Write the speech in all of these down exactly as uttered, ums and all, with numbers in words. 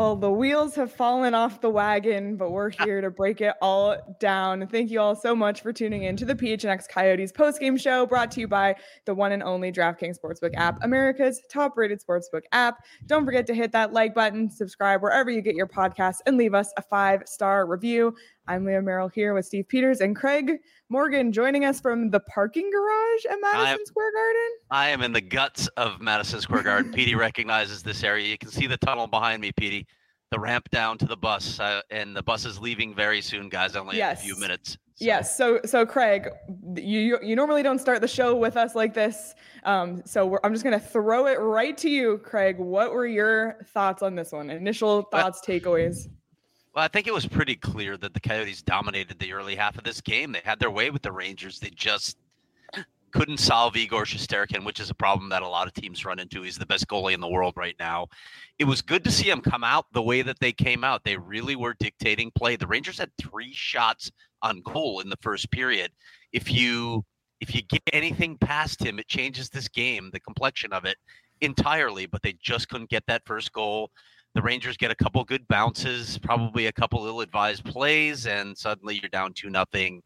Well, the wheels have fallen off the wagon, but we're here to break it all down. Thank you all so much for tuning in to the P H N X Coyotes postgame show, brought to you by the one and only DraftKings Sportsbook app, America's top-rated sportsbook app. Don't forget to hit that like button, subscribe wherever you get your podcasts, and leave us a five-star review. I'm Leah Merrill here with Steve Peters and Craig Morgan joining us from the parking garage at Madison I, Square Garden. I am in the guts of Madison Square Garden. Petey recognizes this area. You can see the tunnel behind me, Petey. The ramp down to the bus, uh, and the bus is leaving very soon, guys. Only yes. in a few minutes. So. Yes. So, so Craig, you you normally don't start the show with us like this. Um, so we're, I'm just gonna throw it right to you, Craig. What were your thoughts on this one? Initial thoughts, well, takeaways. Well, I think it was pretty clear that the Coyotes dominated the early half of this game. They had their way with the Rangers. They just couldn't solve Igor Shesterkin, which is a problem that a lot of teams run into. He's the best goalie in the world right now. It was good to see him come out the way that they came out. They really were dictating play. The Rangers had three shots on goal in the first period. If you if you get anything past him, it changes this game, the complexion of it entirely, but they just couldn't get that first goal. The Rangers get a couple good bounces, probably a couple ill-advised plays, and suddenly you're down two nothing.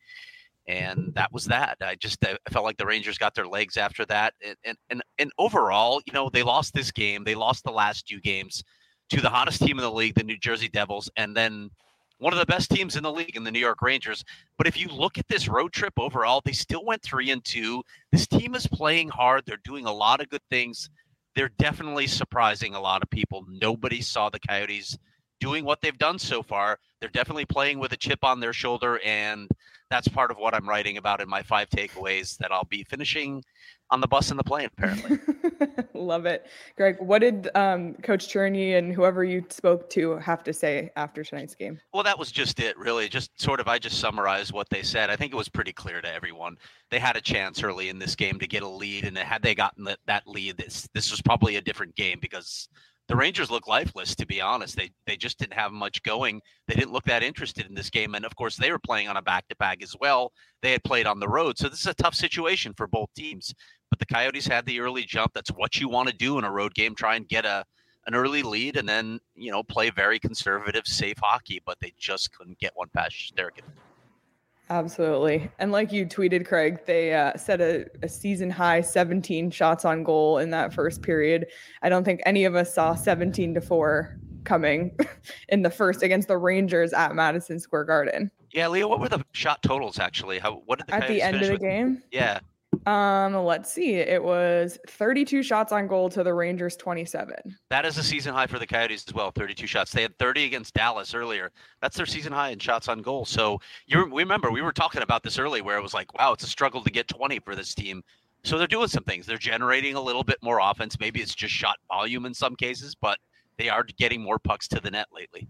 And that was that. I just I felt like the Rangers got their legs after that. And, and and and overall, you know, they lost this game. They lost the last two games to the hottest team in the league, the New Jersey Devils, and then one of the best teams in the league in the New York Rangers. But if you look at this road trip overall, they still went three and two. This team is playing hard. They're doing a lot of good things. They're definitely surprising a lot of people. Nobody saw the Coyotes doing what they've done so far. They're definitely playing with a chip on their shoulder, and that's part of what I'm writing about in my five takeaways that I'll be finishing on the bus and the plane, apparently. Love it. Greg, what did um, Coach Cherney and whoever you spoke to have to say after tonight's game? Well, that was just it, really. Just sort of, I just summarized what they said. I think it was pretty clear to everyone. They had a chance early in this game to get a lead, and had they gotten that, that lead, this this was probably a different game because the Rangers look lifeless, to be honest. They they just didn't have much going. They didn't look that interested in this game. And, of course, they were playing on a back-to-back as well. They had played on the road. So this is a tough situation for both teams. But the Coyotes had the early jump. That's what you want to do in a road game, try and get a an early lead and then, you know, play very conservative, safe hockey. But they just couldn't get one past Shesterkin. Absolutely. And like you tweeted, Craig, they uh, set a, a season high seventeen shots on goal in that first period. I don't think any of us saw seventeen to four coming in the first against the Rangers at Madison Square Garden. Yeah, Leo, what were the shot totals actually? How what did the at the end of the with? game? Yeah. Um, let's see. It was thirty-two shots on goal to the Rangers twenty-seven. That is a season high for the Coyotes as well, thirty-two shots. They had thirty against Dallas earlier. That's their season high in shots on goal. So you we remember we were talking about this early where it was like, wow, it's a struggle to get twenty for this team. So they're doing some things. They're generating a little bit more offense. Maybe it's just shot volume in some cases, but they are getting more pucks to the net lately.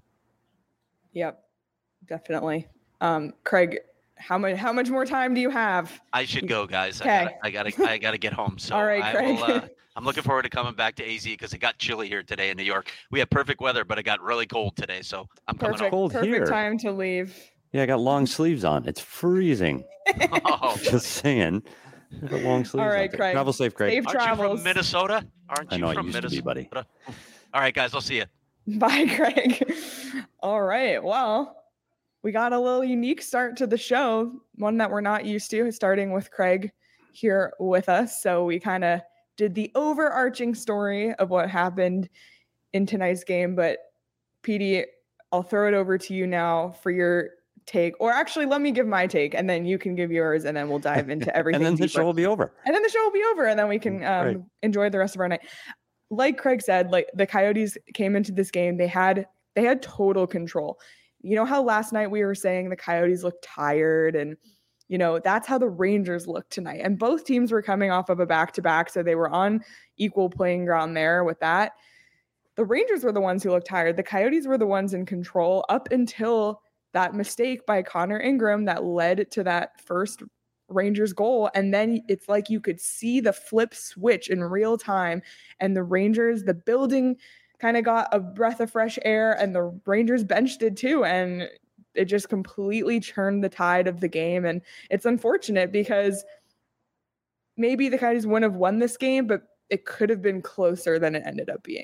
Yep, definitely. Um, Craig, How much? How much more time do you have? I should go, guys. Okay. I gotta, I gotta, I gotta get home. So all right, I Craig. will, uh, I'm looking forward to coming back to A Z because it got chilly here today in New York. We had perfect weather, but it got really cold today. So I'm perfect, coming home. Cold perfect here. time to leave. Yeah, I got long sleeves on. It's freezing. Oh, just saying. I got long sleeves. All right, on. Craig. Travel safe, Craig. Safe Aren't travels. you from Minnesota? Aren't you I know from I used Minnesota? to be, buddy. All right, guys. I'll see you. Bye, Craig. All right. Well, we got a little unique start to the show, one that we're not used to, starting with Craig here with us. So we kind of did the overarching story of what happened in tonight's game. But Petey, I'll throw it over to you now for your take. Or actually, let me give my take, and then you can give yours, and then we'll dive into everything. And then the deeper. show will be over. And then the show will be over, and then we can um, Right. enjoy the rest of our night. Like Craig said, like the Coyotes came into this game, they had they had total control. You know how last night we were saying the Coyotes looked tired, and you know that's how the Rangers looked tonight. And both teams were coming off of a back-to-back, so they were on equal playing ground there with that. The Rangers were the ones who looked tired. The Coyotes were the ones in control up until that mistake by Connor Ingram that led to that first Rangers goal. And then it's like you could see the flip switch in real time. And the Rangers, the building kind of got a breath of fresh air, and the Rangers bench did too. And it just completely turned the tide of the game. And it's unfortunate because maybe the Coyotes wouldn't have won this game, but it could have been closer than it ended up being.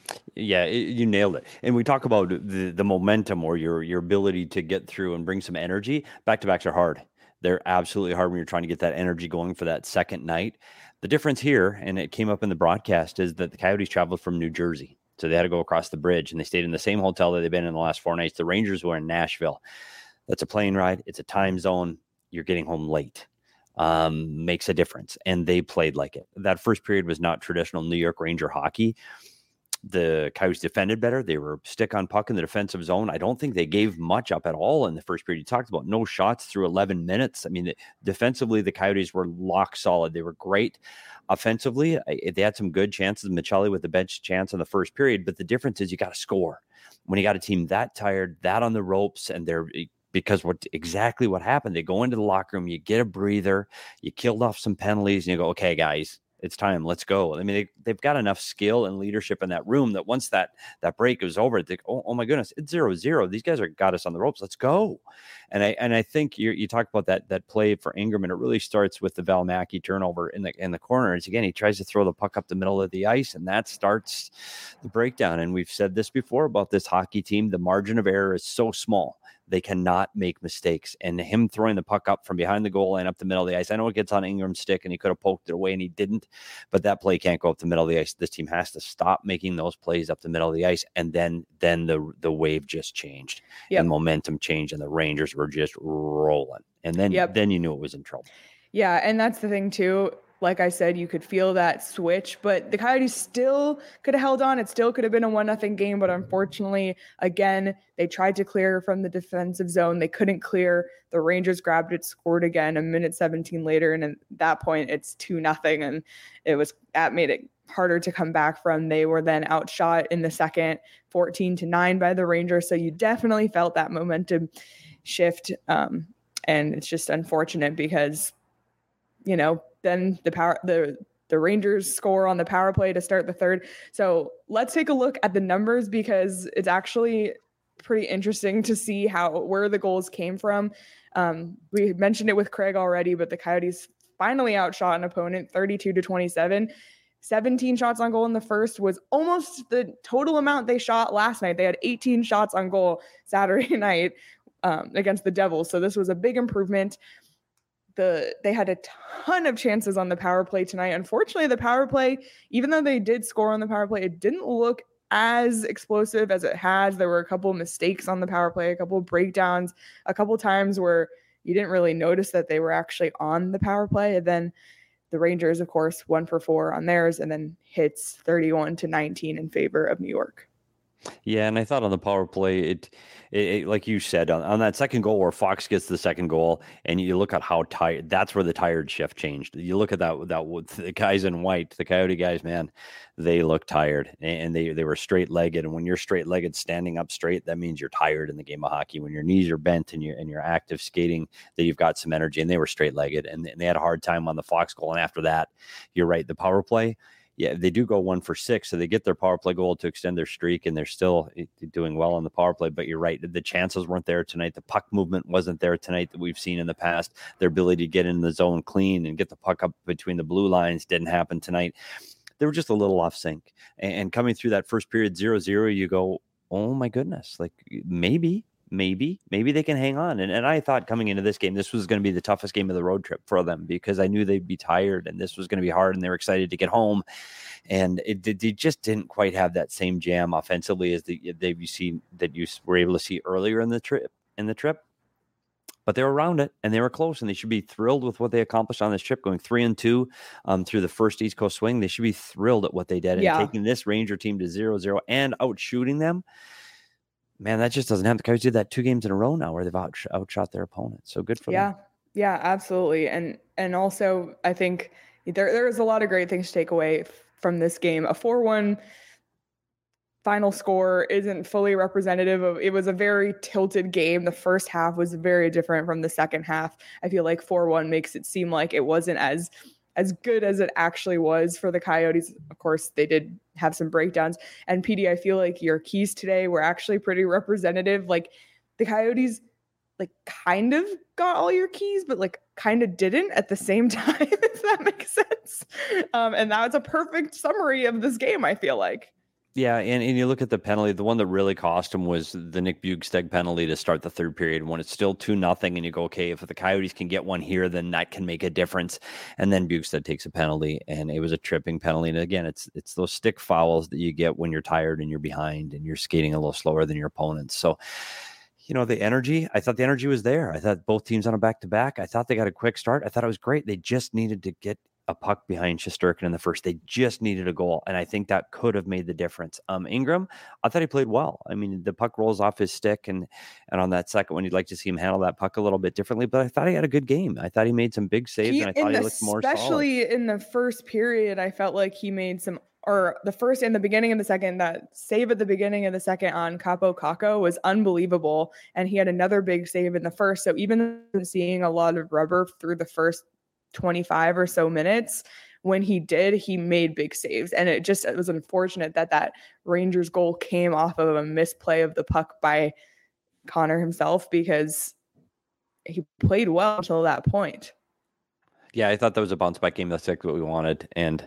Yeah, it, you nailed it. And we talk about the, the momentum or your your ability to get through and bring some energy. Back-to-backs are hard. They're absolutely hard when you're trying to get that energy going for that second night. The difference here, and it came up in the broadcast, is that the Coyotes traveled from New Jersey. So they had to go across the bridge, and they stayed in the same hotel that they've been in the last four nights. The Rangers were in Nashville. That's a plane ride. It's a time zone. You're getting home late. Um, makes a difference. And they played like it. That first period was not traditional New York Ranger hockey. The Coyotes defended better. They were stick on puck in the defensive zone. I don't think they gave much up at all in the first period. You talked about no shots through eleven minutes. I mean, defensively, the Coyotes were lock solid. They were great. Offensively, they had some good chances. Michelli with the bench chance in the first period, but the difference is you got to score. When you got a team that tired, that on the ropes, and they're because what exactly what happened, they go into the locker room, you get a breather, you killed off some penalties, and you go, okay, guys, it's time. Let's go. I mean, they, they've got enough skill and leadership in that room that once that that break is over, they oh, oh my goodness, it's zero zero. These guys are got us on the ropes. Let's go. And I and I think you you talked about that that play for Ingram, and it really starts with the Valimaki turnover in the in the corner. It's again, he tries to throw the puck up the middle of the ice, and that starts the breakdown. And we've said this before about this hockey team. The margin of error is so small. They cannot make mistakes. And him throwing the puck up from behind the goal line up the middle of the ice. I know it gets on Ingram's stick and he could have poked it away and he didn't, but that play can't go up the middle of the ice. This team has to stop making those plays up the middle of the ice. And then, then the, the wave just changed yep. and momentum changed and the Rangers were just rolling. And then, yep. then you knew it was in trouble. Yeah. And that's the thing too. Like I said, you could feel that switch, but the Coyotes still could have held on. It still could have been a one nothing game, but unfortunately, again, they tried to clear from the defensive zone. They couldn't clear. The Rangers grabbed it, scored again a minute seventeen later, and at that point, it's two nothing, and it was that made it harder to come back from. They were then outshot in the second, fourteen to nine by the Rangers, so you definitely felt that momentum shift, um, and it's just unfortunate because, you know, then the power, the, the Rangers score on the power play to start the third. So let's take a look at the numbers because it's actually pretty interesting to see how, where the goals came from. Um, we mentioned it with Craig already, but the Coyotes finally outshot an opponent thirty-two to twenty-seven. seventeen shots on goal in the first was almost the total amount they shot last night. They had eighteen shots on goal Saturday night um, against the Devils. So this was a big improvement. The, they had a ton of chances on the power play tonight. Unfortunately, the power play, even though they did score on the power play, it didn't look as explosive as it has. There were a couple of mistakes on the power play, a couple of breakdowns, a couple of times where you didn't really notice that they were actually on the power play. And then the Rangers, of course, one for four on theirs, and then hits thirty-one to nineteen in favor of New York. Yeah, and I thought on the power play, it, it, it like you said, on, on that second goal where Fox gets the second goal, and you look at how tired, that's where the tired shift changed. You look at that, that the guys in white, the Coyote guys, man, they look tired, and they, they were straight-legged, and when you're straight-legged, standing up straight, that means you're tired in the game of hockey. When your knees are bent and you're, and you're active skating, that you've got some energy, and they were straight-legged, and, and they had a hard time on the Fox goal, and after that, you're right, the power play, yeah, they do go one for six, so they get their power play goal to extend their streak, and they're still doing well on the power play. But you're right, the chances weren't there tonight. The puck movement wasn't there tonight that we've seen in the past. Their ability to get in the zone clean and get the puck up between the blue lines didn't happen tonight. They were just a little off sync. And coming through that first period, zero zero, you go, oh my goodness, like maybe. Maybe, maybe they can hang on. And and I thought coming into this game, this was going to be the toughest game of the road trip for them because I knew they'd be tired and this was going to be hard and they were excited to get home. And it, they just didn't quite have that same jam offensively as the, they've seen that you were able to see earlier in the trip in the trip. But they were around it and they were close and they should be thrilled with what they accomplished on this trip, going three and two um, through the first East Coast swing. They should be thrilled at what they did and yeah. taking this Ranger team to zero zero and out shooting them. Man, that just doesn't happen. The Coyotes did that two games in a row now where they've out, outshot their opponent. So good for yeah, them. Yeah, yeah, absolutely. And and also, I think there there is a lot of great things to take away from this game. A four one final score isn't fully representative of, it was a very tilted game. The first half was very different from the second half. I feel like four one makes it seem like it wasn't as as good as it actually was for the Coyotes. Of course, they did have some breakdowns. And P D, I feel like your keys today were actually pretty representative. Like the Coyotes, like kind of got all your keys, but like kind of didn't at the same time, if that makes sense. Um, and that was a perfect summary of this game, I feel like. Yeah, and, and you look at the penalty, the one that really cost him was the Nick Bugsteg penalty to start the third period when it's still two nothing, and you go, okay, if the Coyotes can get one here, then that can make a difference. And then Bugsteg takes a penalty, and it was a tripping penalty. And again, it's it's those stick fouls that you get when you're tired and you're behind and you're skating a little slower than your opponents. So, you know, the energy, I thought the energy was there. I thought both teams on a back-to-back. I thought they got a quick start. I thought it was great. They just needed to get a puck behind Shesterkin in the first. They just needed a goal, and I think that could have made the difference. Um, Ingram, I thought he played well. I mean, the puck rolls off his stick, and and on that second one, you'd like to see him handle that puck a little bit differently, but I thought he had a good game. I thought he made some big saves, He, and I thought in he the- looked more solid. especially in the first period, I felt like he made some, or the first in the beginning of the second, that save at the beginning of the second on Capo Caco was unbelievable, and he had another big save in the first. So even seeing a lot of rubber through the first twenty-five or so minutes, when he did, he made big saves. And it just, it was unfortunate that that Rangers goal came off of a misplay of the puck by Connor himself, because he played well until that point. Yeah, I thought that was a bounce back game. That's exactly what we wanted. And,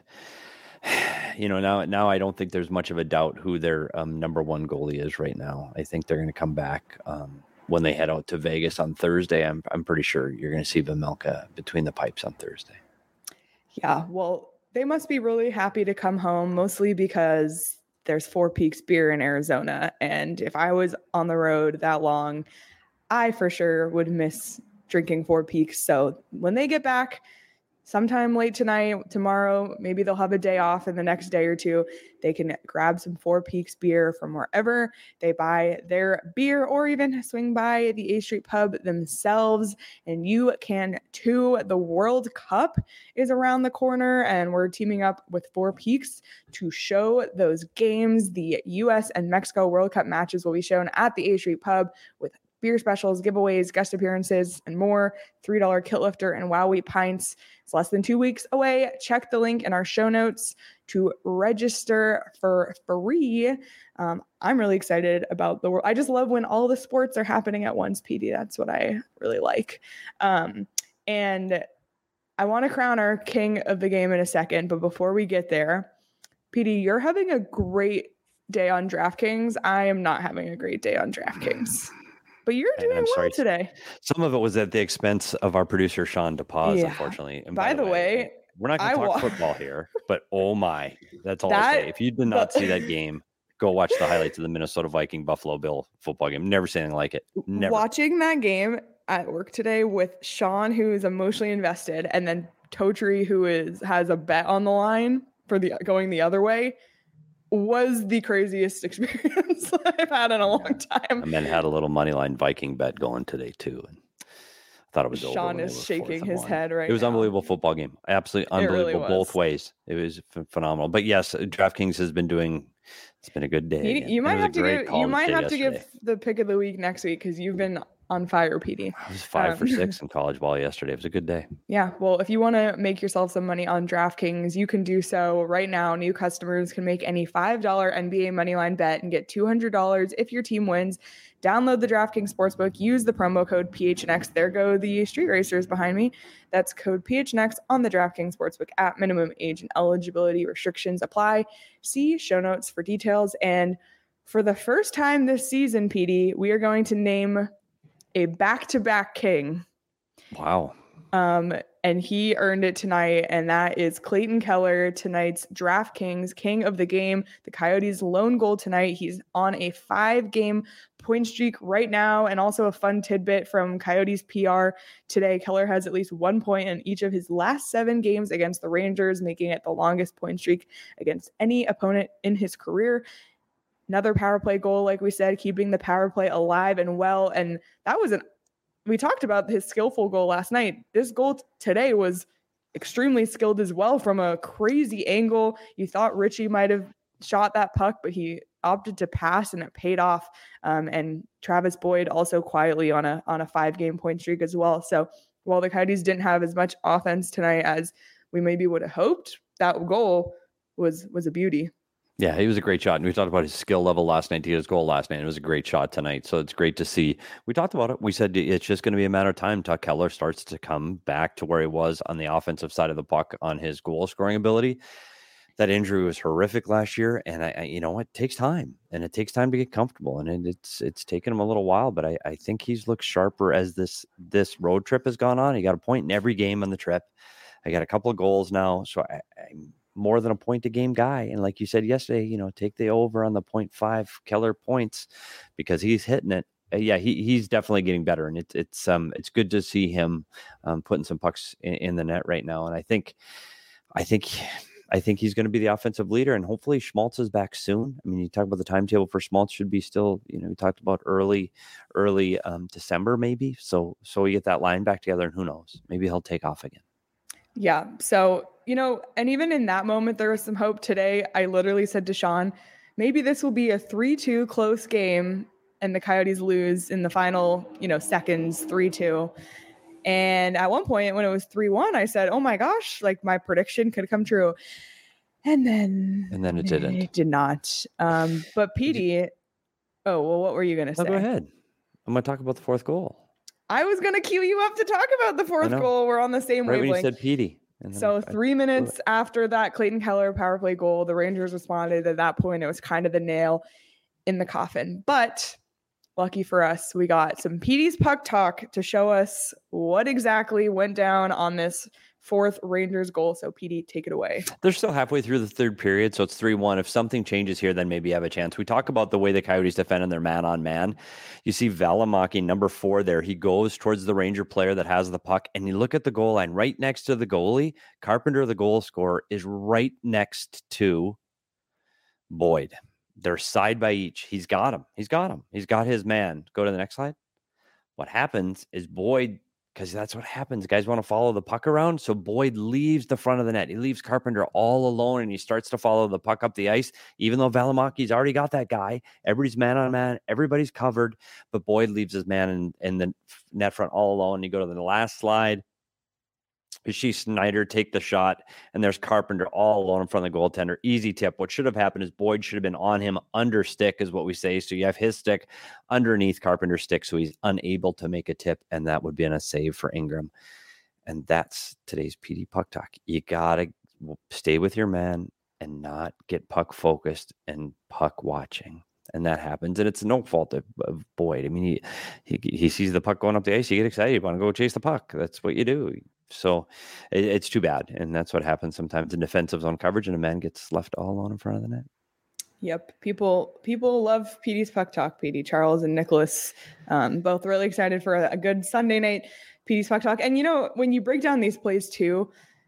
you know, now now I don't think there's much of a doubt who their um, number one goalie is right now. I think they're going to come back um, when they head out to Vegas on Thursday. I'm I'm pretty sure you're going to see Vejmelka between the pipes on Thursday. Yeah, well, they must be really happy to come home, mostly because there's Four Peaks beer in Arizona. And if I was on the road that long, I for sure would miss drinking Four Peaks. So when they get back, sometime late tonight, tomorrow, maybe they'll have a day off, and the next day or two, they can grab some Four Peaks beer from wherever they buy their beer, or even swing by the A Street Pub themselves, and you can too. The World Cup is around the corner, and we're teaming up with Four Peaks to show those games. The U S and Mexico World Cup matches will be shown at the A Street Pub with beer specials, giveaways, guest appearances, and more. three dollar Kit Lifter and Wow Wheat pints. It's less than two weeks away. Check the link in our show notes to register for free. Um, I'm really excited about the world. I just love when all the sports are happening at once, P D. That's what I really like. Um, and I want to crown our king of the game in a second, but before we get there, P D, you're having a great day on DraftKings. I am not having a great day on DraftKings. But you're doing I'm well sorry. today. Some of it was at the expense of our producer, Sean DePaz, Yeah. unfortunately. And By the way, we're not going I to talk wa- football here, but oh my, that's all That- I'll say. If you did not the- see that game, go watch the highlights of the Minnesota Viking Buffalo Bill football game. Never seen anything like it. Never. Watching that game at work today with Sean, who is emotionally invested, and then Totri, who is has a bet on the line for the going the other way, was the craziest experience I've had in a long time. And then had a little money line Viking bet going today too. And I thought it was over. Sean when they is were shaking fourth and his one. head right It was now. unbelievable football game. Absolutely It really unbelievable both was. ways. It was ph- phenomenal. But yes, DraftKings has been doing. It's been a good day. You, again. you It might was a have to great give call you might day have to yesterday. give the pick of the week next week, because you've been on fire, P D. I was five for um, six in college ball yesterday. It was a good day. Yeah, well, if you want to make yourself some money on DraftKings, you can do so right now. New customers can make any five dollar N B A moneyline bet and get two hundred dollars if your team wins. Download the DraftKings Sportsbook. Use the promo code P H N X. There go the street racers behind me. That's code P H N X on the DraftKings Sportsbook app. Minimum age and eligibility restrictions apply. See show notes for details. And for the first time this season, P D, we are going to name a back-to-back king. Wow. Um, and he earned it tonight, and that is Clayton Keller, tonight's DraftKings king of the game. The Coyotes' lone goal tonight. He's on a five-game point streak right now, and also a fun tidbit from Coyotes P R today. Keller has at least one point in each of his last seven games against the Rangers, making it the longest point streak against any opponent in his career. Another power play goal, like we said, keeping the power play alive and well. And that was an we talked about his skillful goal last night. This goal t- today was extremely skilled as well, from a crazy angle. You thought Richie might have shot that puck, but he opted to pass, and it paid off. Um, and Travis Boyd also quietly on a on a five game point streak as well. So while the Coyotes didn't have as much offense tonight as we maybe would have hoped, that goal was was a beauty. Yeah, he was a great shot. And we talked about his skill level last night. He had his goal last night. It was a great shot tonight. So it's great to see. We talked about it. We said it's just going to be a matter of time till Keller starts to come back to where he was on the offensive side of the puck on his goal scoring ability. that injury was horrific last year, and I, I you know, it takes time, and it takes time to get comfortable, and it, it's it's taken him a little while, but I, I think he's looked sharper as this this road trip has gone on. He got a point in every game on the trip. I got a couple of goals now, so I, I'm more than a point a game guy. And like you said yesterday, you know, take the over on the point five Keller points because he's hitting it. Uh, yeah, he he's definitely getting better, and it's it's um it's good to see him um, putting some pucks in, in the net right now, and I think I think. I think he's going to be the offensive leader, and hopefully Schmaltz is back soon. I mean, you talk about the timetable for Schmaltz should be still, you know, we talked about early, early um, December maybe. So, so we get that line back together, and who knows, maybe he'll take off again. Yeah. So, you know, and even in that moment, there was some hope today. I literally said to Sean, maybe this will be a three two close game and the Coyotes lose in the final, you know, seconds, three two. And at one point when it was three one, I said, oh my gosh, like my prediction could come true. And then, and then it didn't. It did not. Um, but Petey, oh, well, what were you going to say? No, go ahead. I'm going to talk about the fourth goal. I was going to cue you up to talk about the fourth goal. We're on the same right wavelength. When you said Petey. So I, three minutes after that Clayton Keller power play goal, the Rangers responded. At that point, it was kind of the nail in the coffin. But lucky for us, we got some Petey's Puck Talk to show us what exactly went down on this fourth Rangers goal. So Petey, take it away. They're still halfway through the third period, so it's three one. If something changes here, then maybe you have a chance. We talk about the way the Coyotes defend in their man-on-man. You see Valimaki, number four there. He goes towards the Ranger player that has the puck, and you look at the goal line right next to the goalie. Carpenter, the goal scorer, is right next to Boyd. They're side by each. He's got him. He's got him. He's got his man. Go to the next slide. What happens is Boyd, because that's what happens. Guys want to follow the puck around. So Boyd leaves the front of the net. He leaves Carpenter all alone, and he starts to follow the puck up the ice, even though Valimaki's already got that guy. Everybody's man on man. Everybody's covered. But Boyd leaves his man in, in the net front all alone. You go to the last slide. You see Snyder take the shot, and there's Carpenter all alone in front of the goaltender. Easy tip. What should have happened is Boyd should have been on him under stick, is what we say. So you have his stick underneath Carpenter's stick, so he's unable to make a tip, and that would be a save for Ingram. And that's today's P D Puck Talk. You got to stay with your man and not get puck focused and puck watching. And that happens, and it's no fault of, of Boyd. I mean, he, he he sees the puck going up the ice, you get excited, you want to go chase the puck. That's what you do. So it, it's too bad, and that's what happens sometimes in defensive zone coverage, and a man gets left all alone in front of the net. Yep, people people love P D's Puck Talk. P D, Charles and Nicholas, um, both really excited for a, a good Sunday night P D's Puck Talk. And you know, when you break down these plays too,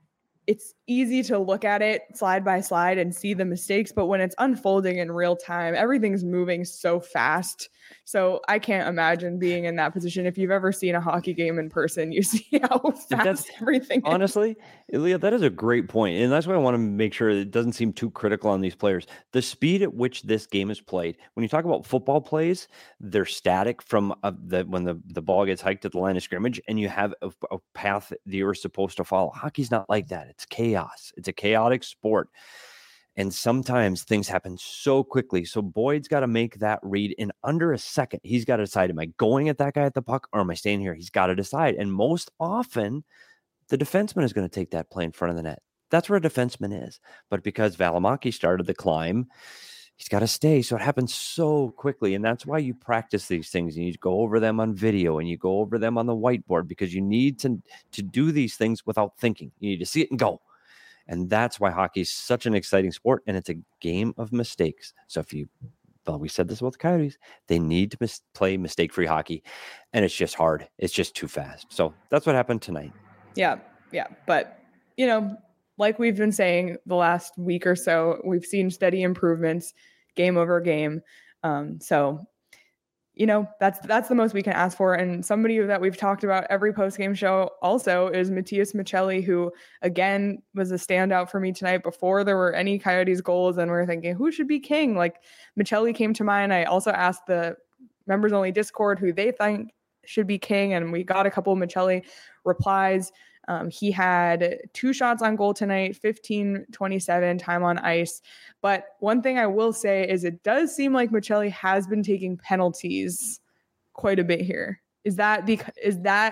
it's easy to look at it slide by slide and see the mistakes, but when it's unfolding in real time, everything's moving so fast. So I can't imagine being in that position. If you've ever seen a hockey game in person, you see how fast that's, everything is. Honestly, Leah, that is a great point. And that's why I want to make sure it doesn't seem too critical on these players. The speed at which this game is played, when you talk about football plays, they're static from uh, the when the, the ball gets hiked at the line of scrimmage, and you have a, a path that you're supposed to follow. Hockey's not like that. It's chaos. It's a chaotic sport. And sometimes things happen so quickly. So Boyd's got to make that read in under a second. He's got to decide, am I going at that guy at the puck, or am I staying here? He's got to decide. And most often, the defenseman is going to take that play in front of the net. That's where a defenseman is. But because Valimaki started the climb, he's got to stay. So it happens so quickly. And that's why you practice these things. You need to go over them on video, and you go over them on the whiteboard, because you need to, to do these things without thinking. You need to see it and go. And that's why hockey is such an exciting sport, and it's a game of mistakes. So if you, well, we said this about the Coyotes, they need to mis- play mistake-free hockey, and it's just hard. It's just too fast. So that's what happened tonight. Yeah, yeah. But, you know, like we've been saying the last week or so, we've seen steady improvements game over game. Um, so, you know, that's that's the most we can ask for. And somebody that we've talked about every post-game show also is Matias Maccelli, who, again, was a standout for me tonight before there were any Coyotes goals. And we we're thinking, who should be king? Like, Maccelli came to mind. I also asked the members-only Discord who they think should be king, and we got a couple of Maccelli replies. Um, he had two shots on goal tonight, fifteen twenty-seven time on ice. But one thing I will say is it does seem like Maccelli has been taking penalties quite a bit here. Is that because, is that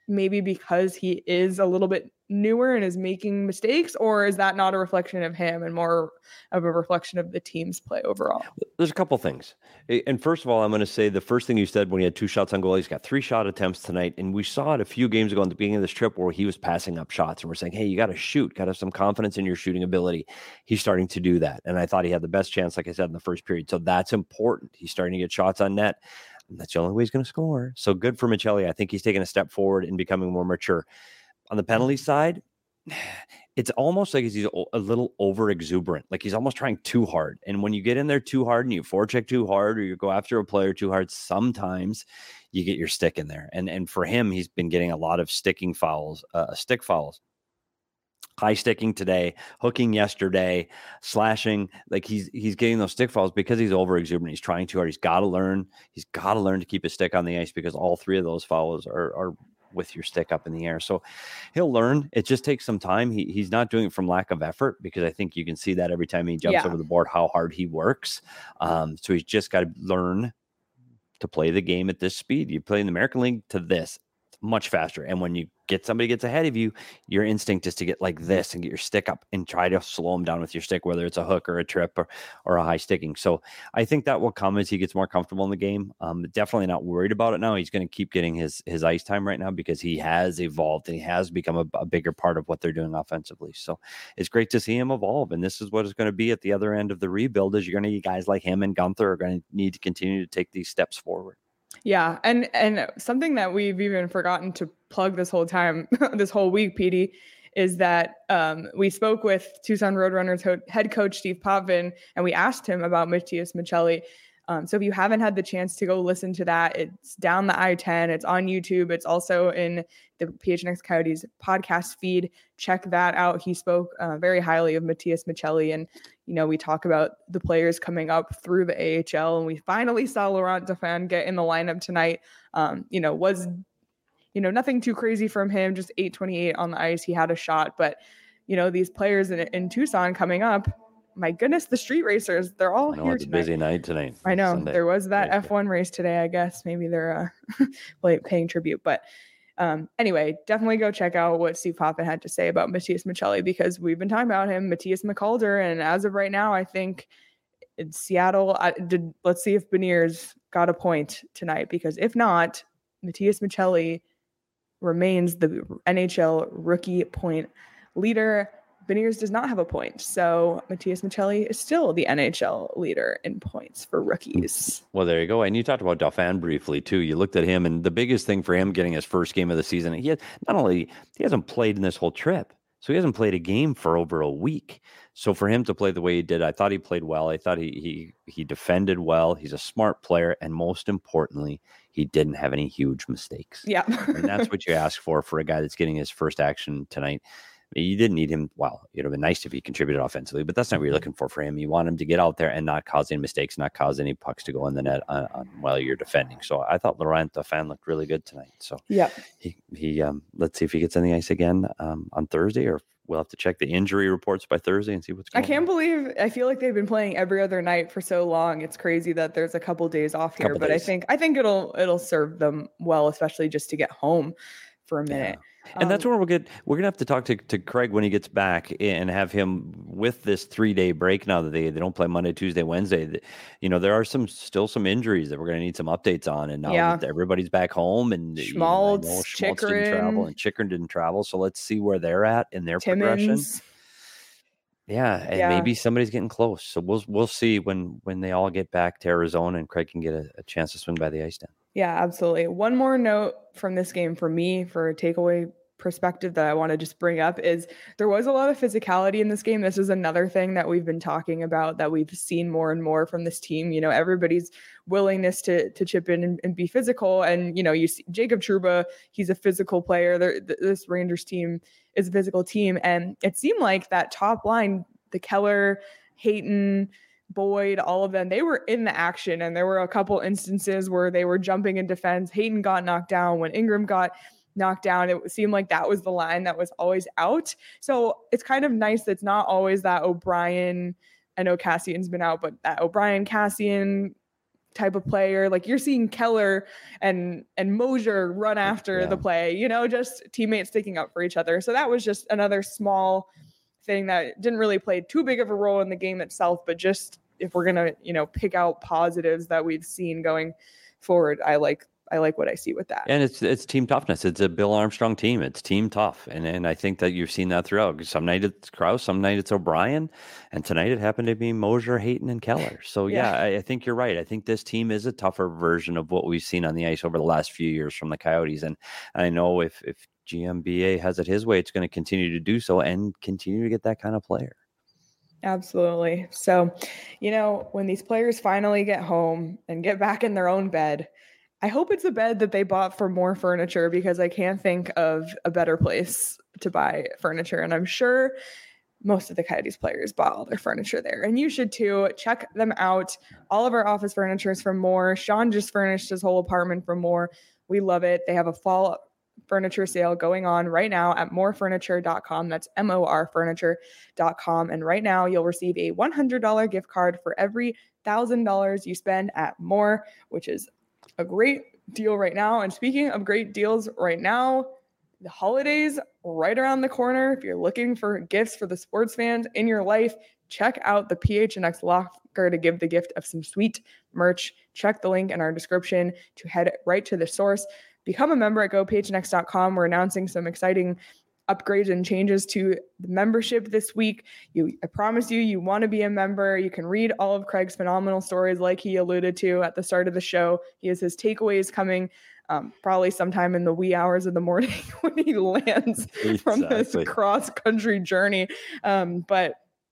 maybe because he is a little bit newer and is making mistakes, or is that not a reflection of him and more of a reflection of the team's play overall? There's a couple things. And first of all, I'm going to say the first thing you said when he had two shots on goal, he's got three shot attempts tonight. And we saw it a few games ago in the beginning of this trip where he was passing up shots and we're saying, hey, you got to shoot, got to have some confidence in your shooting ability. He's starting to do that. And I thought he had the best chance, like I said, in the first period. So that's important. He's starting to get shots on net. And that's the only way he's going to score. So good for Maccelli. I think he's taking a step forward in becoming more mature. On the penalty side, it's almost like he's a little over exuberant. Like he's almost trying too hard. And when you get in there too hard and you forecheck too hard or you go after a player too hard, sometimes you get your stick in there. And and for him, he's been getting a lot of sticking fouls, uh, stick fouls. High sticking today, hooking yesterday, slashing. Like he's he's getting those stick fouls because he's over exuberant. He's trying too hard. He's got to learn. He's got to learn to keep his stick on the ice because all three of those fouls are are with your stick up in the air. So he'll learn. It just takes some time. He he's not doing it from lack of effort because I think you can see that every time he jumps yeah. over the board, how hard he works. Um, so he's just got to learn to play the game at this speed. You play in the American League to this, it's much faster. And when you get somebody gets ahead of you, your instinct is to get like this and get your stick up and try to slow him down with your stick, whether it's a hook or a trip or, or a high sticking. So I think that will come as he gets more comfortable in the game. Um, definitely not worried about it now. He's going to keep getting his, his ice time right now because he has evolved and he has become a, a bigger part of what they're doing offensively. So it's great to see him evolve. And this is what it's going to be at the other end of the rebuild is you're going to need guys like him and Gunther are going to need to continue to take these steps forward. Yeah. And, and something that we've even forgotten to plug this whole time, this whole week, P D, is that um, we spoke with Tucson Roadrunners ho- head coach Steve Potvin, and we asked him about Matias Maccelli. Um, so if you haven't had the chance to go listen to that, it's down the I ten, it's on YouTube. It's also in the P H N X Coyotes podcast feed. Check that out. He spoke uh, very highly of Matias Maccelli. And, you know, we talk about the players coming up through the A H L, and we finally saw Laurent Dauphin get in the lineup tonight. Um, you know, was, you know, nothing too crazy from him, just eight twenty-eight on the ice. He had a shot, but, you know, these players in, in Tucson coming up, my goodness, the street racers, they're all know, here it's tonight. a busy night tonight. I know. Sunday. There was that Race F one race today, I guess. Maybe they're uh, paying tribute. But um, anyway, definitely go check out what Steve Potvin had to say about Matias Maccelli because we've been talking about him, Matthias McCalder. And as of right now, I think in Seattle, I did, let's see if Beniers got a point tonight because if not, Matias Maccelli remains the N H L rookie point leader. Beniers does not have a point. So Matias Maccelli is still the N H L leader in points for rookies. Well, there you go. And you talked about Dauphin briefly too. You looked at him and the biggest thing for him getting his first game of the season, he had, not only he hasn't played in this whole trip, so he hasn't played a game for over a week. So for him to play the way he did, I thought he played well. I thought he he he defended well. He's a smart player. And most importantly, he didn't have any huge mistakes. Yeah. And that's what you ask for for a guy that's getting his first action tonight. You didn't need him. Well, it would have been nice if he contributed offensively, but that's not what you're looking for for him. You want him to get out there and not cause any mistakes, not cause any pucks to go in the net on, on, while you're defending. So I thought Laurent Dauphin looked really good tonight. So yeah, he, he um, let's see if he gets on the ice again um, on Thursday, or we'll have to check the injury reports by Thursday and see what's going on. I can't on. believe, I feel like they've been playing every other night for so long. It's crazy that there's a couple days off here, but days. I think, I think it'll, it'll serve them well, especially just to get home for a minute. Yeah. And um, that's where we'll get, we're going to have to talk to, to Craig when he gets back and have him with this three day break now that they, they don't play Monday, Tuesday, Wednesday. You know, there are some, still some injuries that we're going to need some updates on. And now yeah. that everybody's back home and Schmaltz, you know, Schmaltz didn't travel and Chychrun didn't travel. So let's see where they're at in their Timmins. progression. Yeah. And yeah. maybe somebody's getting close. So we'll, we'll see when, when they all get back to Arizona and Craig can get a, a chance to swing by the ice then. Yeah, absolutely. One more note from this game for me for a takeaway perspective that I want to just bring up is there was a lot of physicality in this game. This is another thing that we've been talking about that we've seen more and more from this team. You know, everybody's willingness to to chip in and, and be physical. And, you know, you see Jacob Trouba, he's a physical player. There, this Rangers team is a physical team. And it seemed like that top line, the Keller, Hayton, Boyd, all of them, they were in the action. And there were a couple instances where they were jumping in defense. Hayton got knocked down. When Ingram got knocked down, it seemed like that was the line that was always out. So it's kind of nice that it's not always that O'Brien. I know Cassian's been out, but that O'Brien, Cassian, type of player. Like you're seeing Keller and and Mosier run after yeah. the play, you know, just teammates sticking up for each other. So that was just another small thing that didn't really play too big of a role in the game itself, but just if we're gonna, you know, pick out positives that we've seen going forward, I like I like what I see with that. And it's it's team toughness. It's a Bill Armstrong team. It's team tough. And and I think that you've seen that throughout. Some night it's Krause, some night it's O'Brien, and tonight it happened to be Mosier, Hayton, and Keller. So yeah, yeah I, I think you're right. I think this team is a tougher version of what we've seen on the ice over the last few years from the Coyotes. And I know if if G M B A has it his way, it's going to continue to do so and continue to get that kind of player. Absolutely. So, you know, when these players finally get home and get back in their own bed, I hope it's a bed that they bought for More Furniture, because I can't think of a better place to buy furniture. And I'm sure most of the Coyotes players bought all their furniture there. And you should too. Check them out. All of our office furniture is from More. Sean just furnished his whole apartment from More. We love it. They have a fall furniture sale going on right now at more furniture dot com. That's M O R furniture dot com. And right now you'll receive a one hundred dollars gift card for every one thousand dollars you spend at More, which is a great deal right now. And speaking of great deals right now, the holidays right around the corner. If you're looking for gifts for the sports fans in your life, check out the P H N X locker to give the gift of some sweet merch. Check the link in our description to head right to the source. Become a member at go p h n x dot com. We're announcing some exciting upgrades and changes to the membership this week. You, I promise you, you want to be a member. You can read all of Craig's phenomenal stories like he alluded to at the start of the show. He has his takeaways coming um, probably sometime in the wee hours of the morning when he lands exactly. from this cross-country journey. Um, but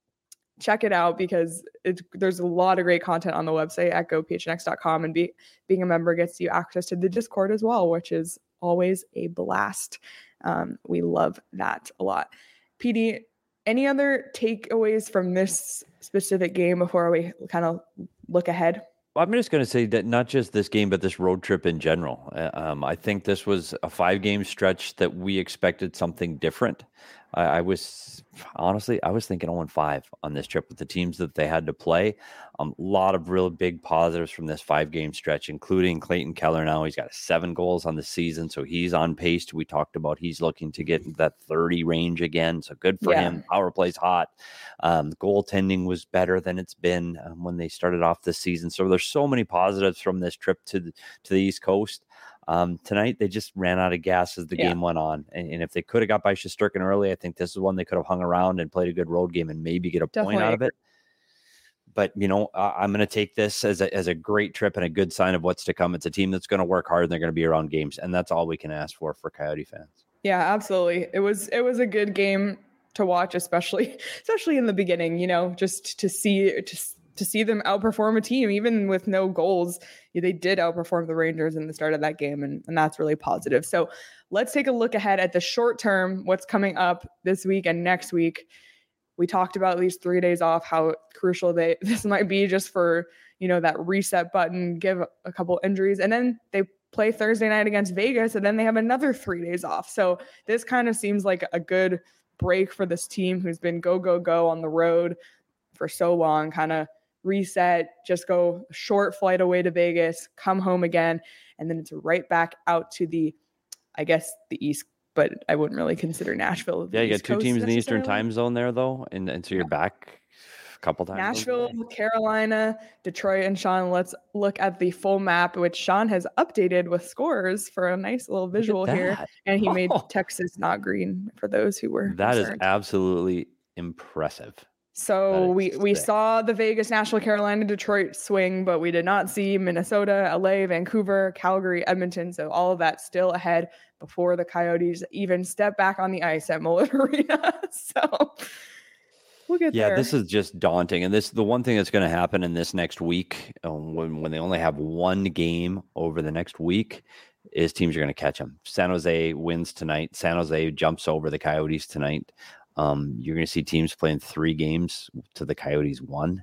check it out, because it's, there's a lot of great content on the website at go p h n x dot com, and be, being a member gets you access to the Discord as well, which is always a blast. Um, we love that a lot. P D, any other takeaways from this specific game before we kind of look ahead? I'm just going to say that not just this game, but this road trip in general. Um, I think this was a five-game stretch that we expected something different. I, I was honestly, I was thinking oh and five on this trip with the teams that they had to play. A um, lot of real big positives from this five-game stretch, including Clayton Keller. Now he's got seven goals on the season, so he's on pace. We talked about he's looking to get into that thirty range again, so good for yeah. him. Power play's hot. Um, goaltending was better than it's been um, when they started off this season. So there's so many positives from this trip to the, to the East Coast. Um, tonight, they just ran out of gas as the yeah. game went on. And, and if they could have got by Shesterkin early, I think this is one they could have hung around and played a good road game and maybe get a Definitely. point out of it. But, you know, uh, I'm going to take this as a, as a great trip and a good sign of what's to come. It's a team that's going to work hard and they're going to be around games. And that's all we can ask for for Coyote fans. Yeah, absolutely. It was it was a good game to watch, especially especially in the beginning, you know, just to see just to see them outperform a team, even with no goals. They did outperform the Rangers in the start of that game, and, and that's really positive. So let's take a look ahead at the short term, what's coming up this week and next week. We talked about these three days off, how crucial they this might be just for, you know, that reset button, give a couple injuries, and then they play Thursday night against Vegas, and then they have another three days off. So this kind of seems like a good break for this team who's been go, go, go on the road for so long, kind of reset, just go a short flight away to Vegas, come home again, and then it's right back out to the, I guess, the East, but I wouldn't really consider Nashville. Yeah, you East got two Coast teams in the Eastern time zone there, though, and, and so you're back a couple times. Nashville, Carolina, Detroit, and Sean. Let's look at the full map, which Sean has updated with scores for a nice little visual here, and he oh. made Texas not green for those who were That concerned. is absolutely impressive. So we, we saw the Vegas, Nashville, Carolina, Detroit swing, but we did not see Minnesota, L A, Vancouver, Calgary, Edmonton. So all of that still ahead before the Coyotes even step back on the ice at Mullet Arena. So we'll get yeah, there. This is just daunting. And this the one thing that's going to happen in this next week, um, when, when they only have one game over the next week, is teams are going to catch them. San Jose wins tonight. San Jose jumps over the Coyotes tonight. Um, you're going to see teams playing three games to the Coyotes one.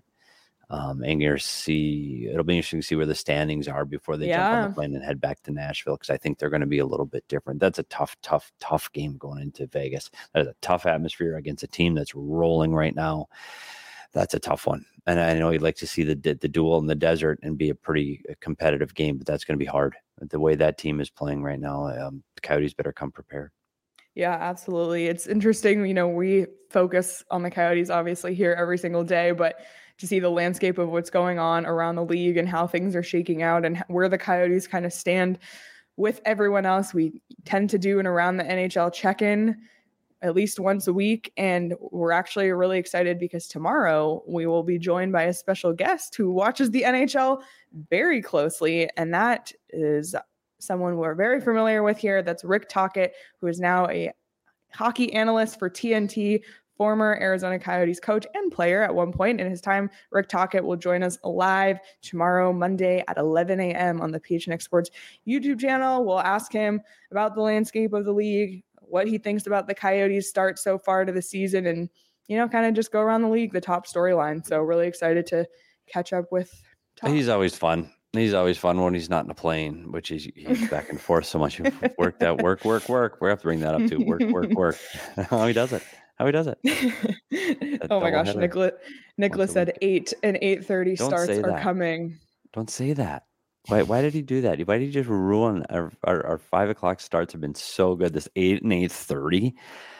Um, and you're see it'll be interesting to see where the standings are before they yeah. jump on the plane and head back to Nashville, because I think they're going to be a little bit different. That's a tough, tough, tough game going into Vegas. That is a tough atmosphere against a team that's rolling right now. That's a tough one. And I know he'd like to see the the duel in the desert and be a pretty competitive game, but that's going to be hard. The way that team is playing right now, um, the Coyotes better come prepared. Yeah, absolutely. It's interesting. You know, we focus on the Coyotes obviously here every single day, but to see the landscape of what's going on around the league and how things are shaking out and where the Coyotes kind of stand with everyone else, we tend to do an around the N H L check-in at least once a week. And we're actually really excited because tomorrow we will be joined by a special guest who watches the N H L very closely. And that is someone we're very familiar with here. That's Rick Tocchet, who is now a hockey analyst for T N T, former Arizona Coyotes coach and player at one point in his time. Rick Tocchet will join us live tomorrow, Monday at eleven a.m. on the P H N X Sports YouTube channel. We'll ask him about the landscape of the league, what he thinks about the Coyotes' start so far to the season, and, you know, kind of just go around the league, the top storyline. So really excited to catch up with Toc. He's always fun. He's always fun when he's not in a plane, which is he's back and forth so much. Work that work, work, work. We have to bring that up too. Work, work, work. How he does it. How he does it. Oh my gosh, Nicholas Nicholas said eight and eight thirty starts are that. coming. Don't say that. Why why did he do that? Why did he just ruin our, our, our five o'clock starts have been so good. This eight and eight thirty.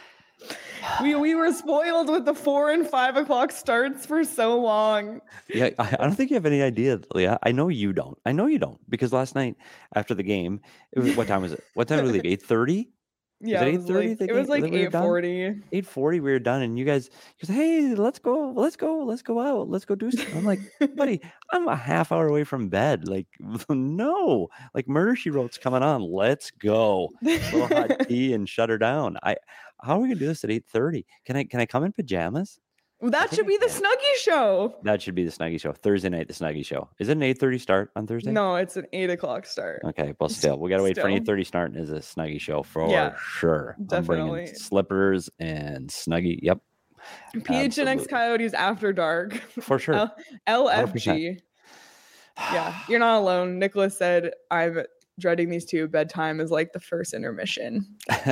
We we were spoiled with the four and five o'clock starts for so long. Yeah, I, I don't think you have any idea, Leah. I know you don't. I know you don't because last night after the game, it was, what time was it? What time did we leave? Eight thirty. Yeah, it, it was like, it was like eight forty. Eight forty, we were done, and you guys, you said, "Hey, let's go, let's go, let's go out, let's go do something." I'm like, buddy, I'm a half hour away from bed. Like, no, like Murder She Wrote's coming on. Let's go, a little hot tea and shut her down. I, how are we gonna do this at eight thirty? Can I, can I come in pajamas? Well, that should be the Snuggie Show. That should be the Snuggie Show. Thursday night, the Snuggie Show. Is it an eight thirty start on Thursday? No, it's an eight o'clock start. Okay, well, still, we got to wait Still. for an eight thirty start as a Snuggie Show for Yeah, sure. definitely. I'm bringing slippers and Snuggie. Yep. P H N X Coyotes After Dark. For sure. L- LFG. Yeah, you're not alone. Nicholas said, I'm dreading these two. Bedtime is like the first intermission.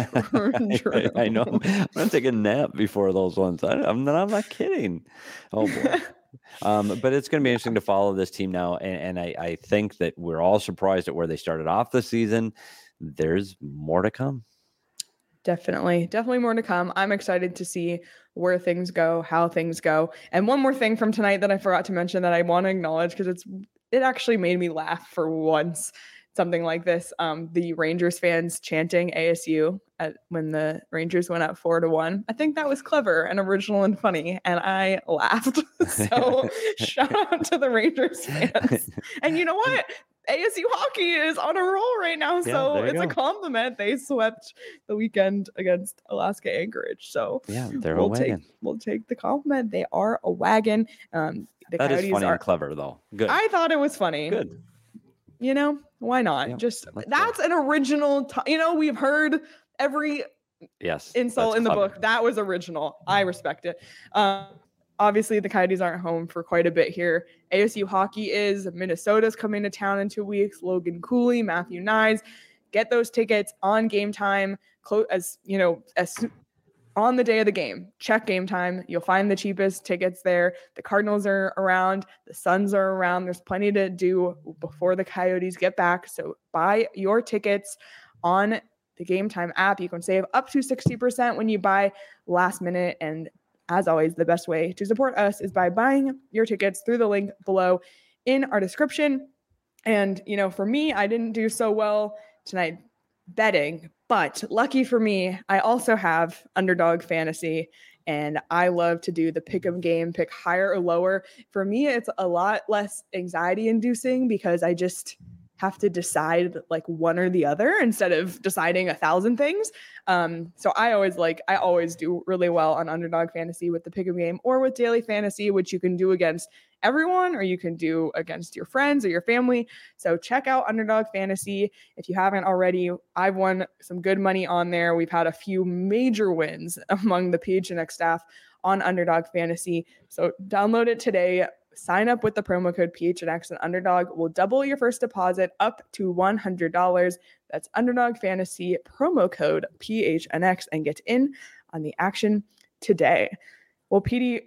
I, I know. I'm going to take a nap before those ones. I, I'm, not, I'm not kidding. Oh, boy. um, but it's going to be interesting to follow this team now. And, and I, I think that we're all surprised at where they started off the season. There's more to come. Definitely. Definitely more to come. I'm excited to see where things go, how things go. And one more thing from tonight that I forgot to mention that I want to acknowledge because it's it actually made me laugh for once. Something like this. Um, the Rangers fans chanting A S U at, when the Rangers went up four to one. I think that was clever and original and funny, and I laughed. So shout out to the Rangers fans. And you know what? A S U hockey is on a roll right now, Yeah, so there you it's go. a compliment. They swept the weekend against Alaska Anchorage, so Yeah, they're we'll a wagon. take we'll take the compliment. They are a wagon. Um, the That Coyotes is funny are. and clever, though. Good. I thought it was funny. Good. You know, why not? Yeah, Just let's go. that's an original. T- you know, we've heard every Yes. insult that's in the clever. book. That was original. I respect it. Um, obviously, the Coyotes aren't home for quite a bit here. A S U hockey is. Minnesota's coming to town in two weeks. Logan Cooley, Matthew Nyes. Get those tickets on Game Time. Clo- as you know, as soo- on the day of the game, check Game Time. You'll find the cheapest tickets there. The Cardinals are around. The Suns are around. There's plenty to do before the Coyotes get back. So buy your tickets on the Game Time app. You can save up to sixty percent when you buy last minute. And as always, the best way to support us is by buying your tickets through the link below in our description. And, you know, for me, I didn't do so well tonight betting, but lucky for me, I also have Underdog Fantasy, and I love to do the pick 'em game, pick higher or lower. For me, it's a lot less anxiety inducing because I just have to decide like one or the other instead of deciding a thousand things. Um, so I always like, I always do really well on Underdog Fantasy with the pick 'em game or with Daily Fantasy, which you can do against everyone or you can do against your friends or your family. So check out Underdog Fantasy. If you haven't already, I've won some good money on there. We've had a few major wins among the P H N X staff on Underdog Fantasy. So download it today. Sign up with the promo code P H N X and Underdog will double your first deposit up to one hundred dollars. That's Underdog Fantasy promo code P H N X and get in on the action today. Well, Petey,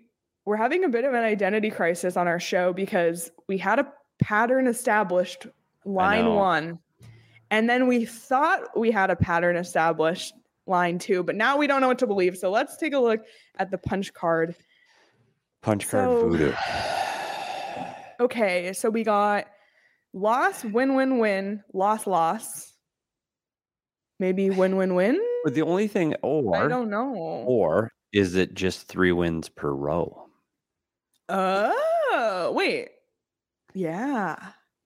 we're having a bit of an identity crisis on our show because we had a pattern established line one, and then we thought we had a pattern established line two, but now we don't know what to believe. So let's take a look at the punch card. Punch card So- voodoo. Okay, so we got loss, win, win, win, loss, loss. Maybe win, win, win. But the only thing, I or don't know. or is it just three wins per row? Oh, wait. Yeah.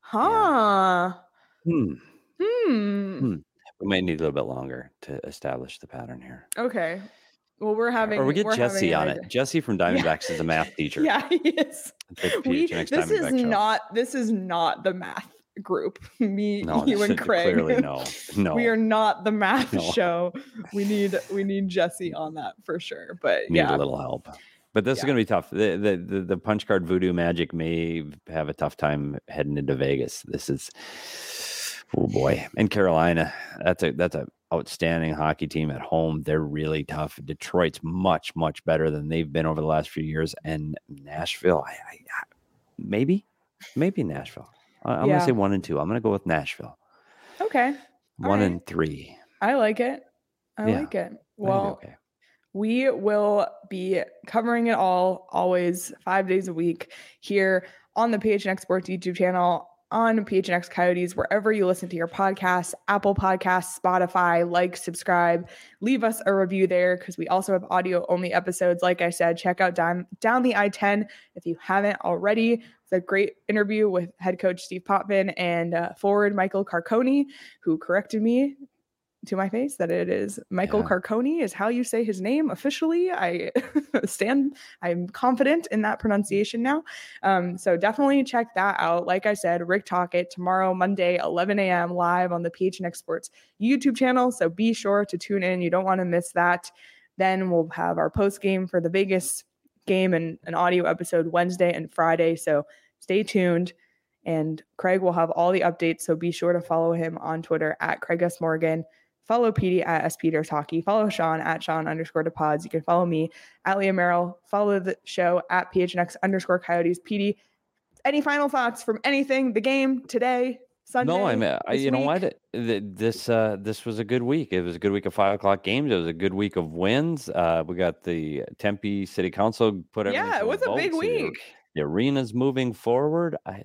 Huh. Hmm. Hmm. Hmm. We might need a little bit longer to establish the pattern here. Okay. Well, we're having. Or we get we're Jesse having on an it. Jesse from Diamondbacks is a math teacher. Yeah, he is. The We, P H N X this is Diamondback show. not. This is not the math group. Me, No, you, this and is- Craig. Clearly, no, no. We are not the math No. show. We need. We need Jesse on that for sure. But need yeah. a little help. But this is Yeah. going to be tough. The, the the the punch card voodoo magic may have a tough time heading into Vegas. This is, oh boy, and Carolina. That's a that's a outstanding hockey team at home. They're really tough. Detroit's much much better than they've been over the last few years. And Nashville, I, I, I maybe maybe Nashville. I, I'm Yeah. gonna say one and two. I'm gonna go with Nashville. Okay. One right. and three. I like it. I Yeah. like it. I think Well, okay. we will be covering it all, always five days a week here on the P H N X Sports YouTube channel, on P H N X Coyotes, wherever you listen to your podcasts, Apple Podcasts, Spotify. Like, subscribe, leave us a review there because we also have audio only episodes. Like I said, check out Down, Down the I ten if you haven't already. It's a great interview with head coach Steve Potvin and uh, forward Michael Carcone, who corrected me to my face that it is Michael Yeah. Carcone is how you say his name officially. I stand, I'm confident in that pronunciation now. Um, so definitely check that out. Like I said, Rick Talkett tomorrow, Monday, eleven a.m. live on the P H N X Sports YouTube channel. So be sure to tune in. You don't want to miss that. Then we'll have our post game for the Vegas game and an audio episode Wednesday and Friday. So stay tuned. And Craig will have all the updates. So be sure to follow him on Twitter at Craig S. Morgan. Follow Petey at S. Peters Hockey. Follow Sean at Sean underscore depods. You can follow me at Leah Merrill. Follow the show at P H N X underscore Coyotes. Petey, any final thoughts from anything? The game today, Sunday? No, I mean, I, this you know week? what? Th- This uh, this was a good week. It was a good week of five o'clock games. It was a good week of wins. Uh, we got the Tempe City Council put everything. Yeah, to it was a big vote, so the- week. The arena's moving forward. I,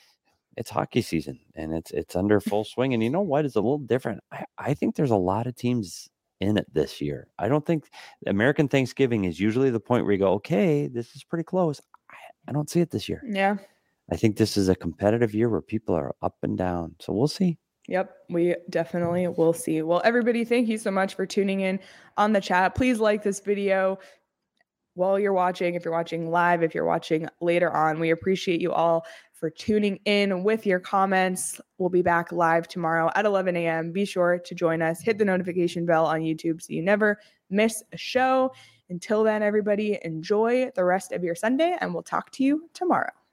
it's hockey season and it's it's under full swing. And you know what? It's a little different. I, I think there's a lot of teams in it this year. I don't think American Thanksgiving is usually the point where you go, okay, this is pretty close. I, I don't see it this year. Yeah. I think this is a competitive year where people are up and down. So we'll see. Yep, we definitely will see. Well, everybody, thank you so much for tuning in on the chat. Please like this video while you're watching, if you're watching live, if you're watching later on. We appreciate you all for tuning in with your comments. We'll be back live tomorrow at eleven a.m. Be sure to join us. Hit the notification bell on YouTube so you never miss a show. Until then, everybody, enjoy the rest of your Sunday, and we'll talk to you tomorrow.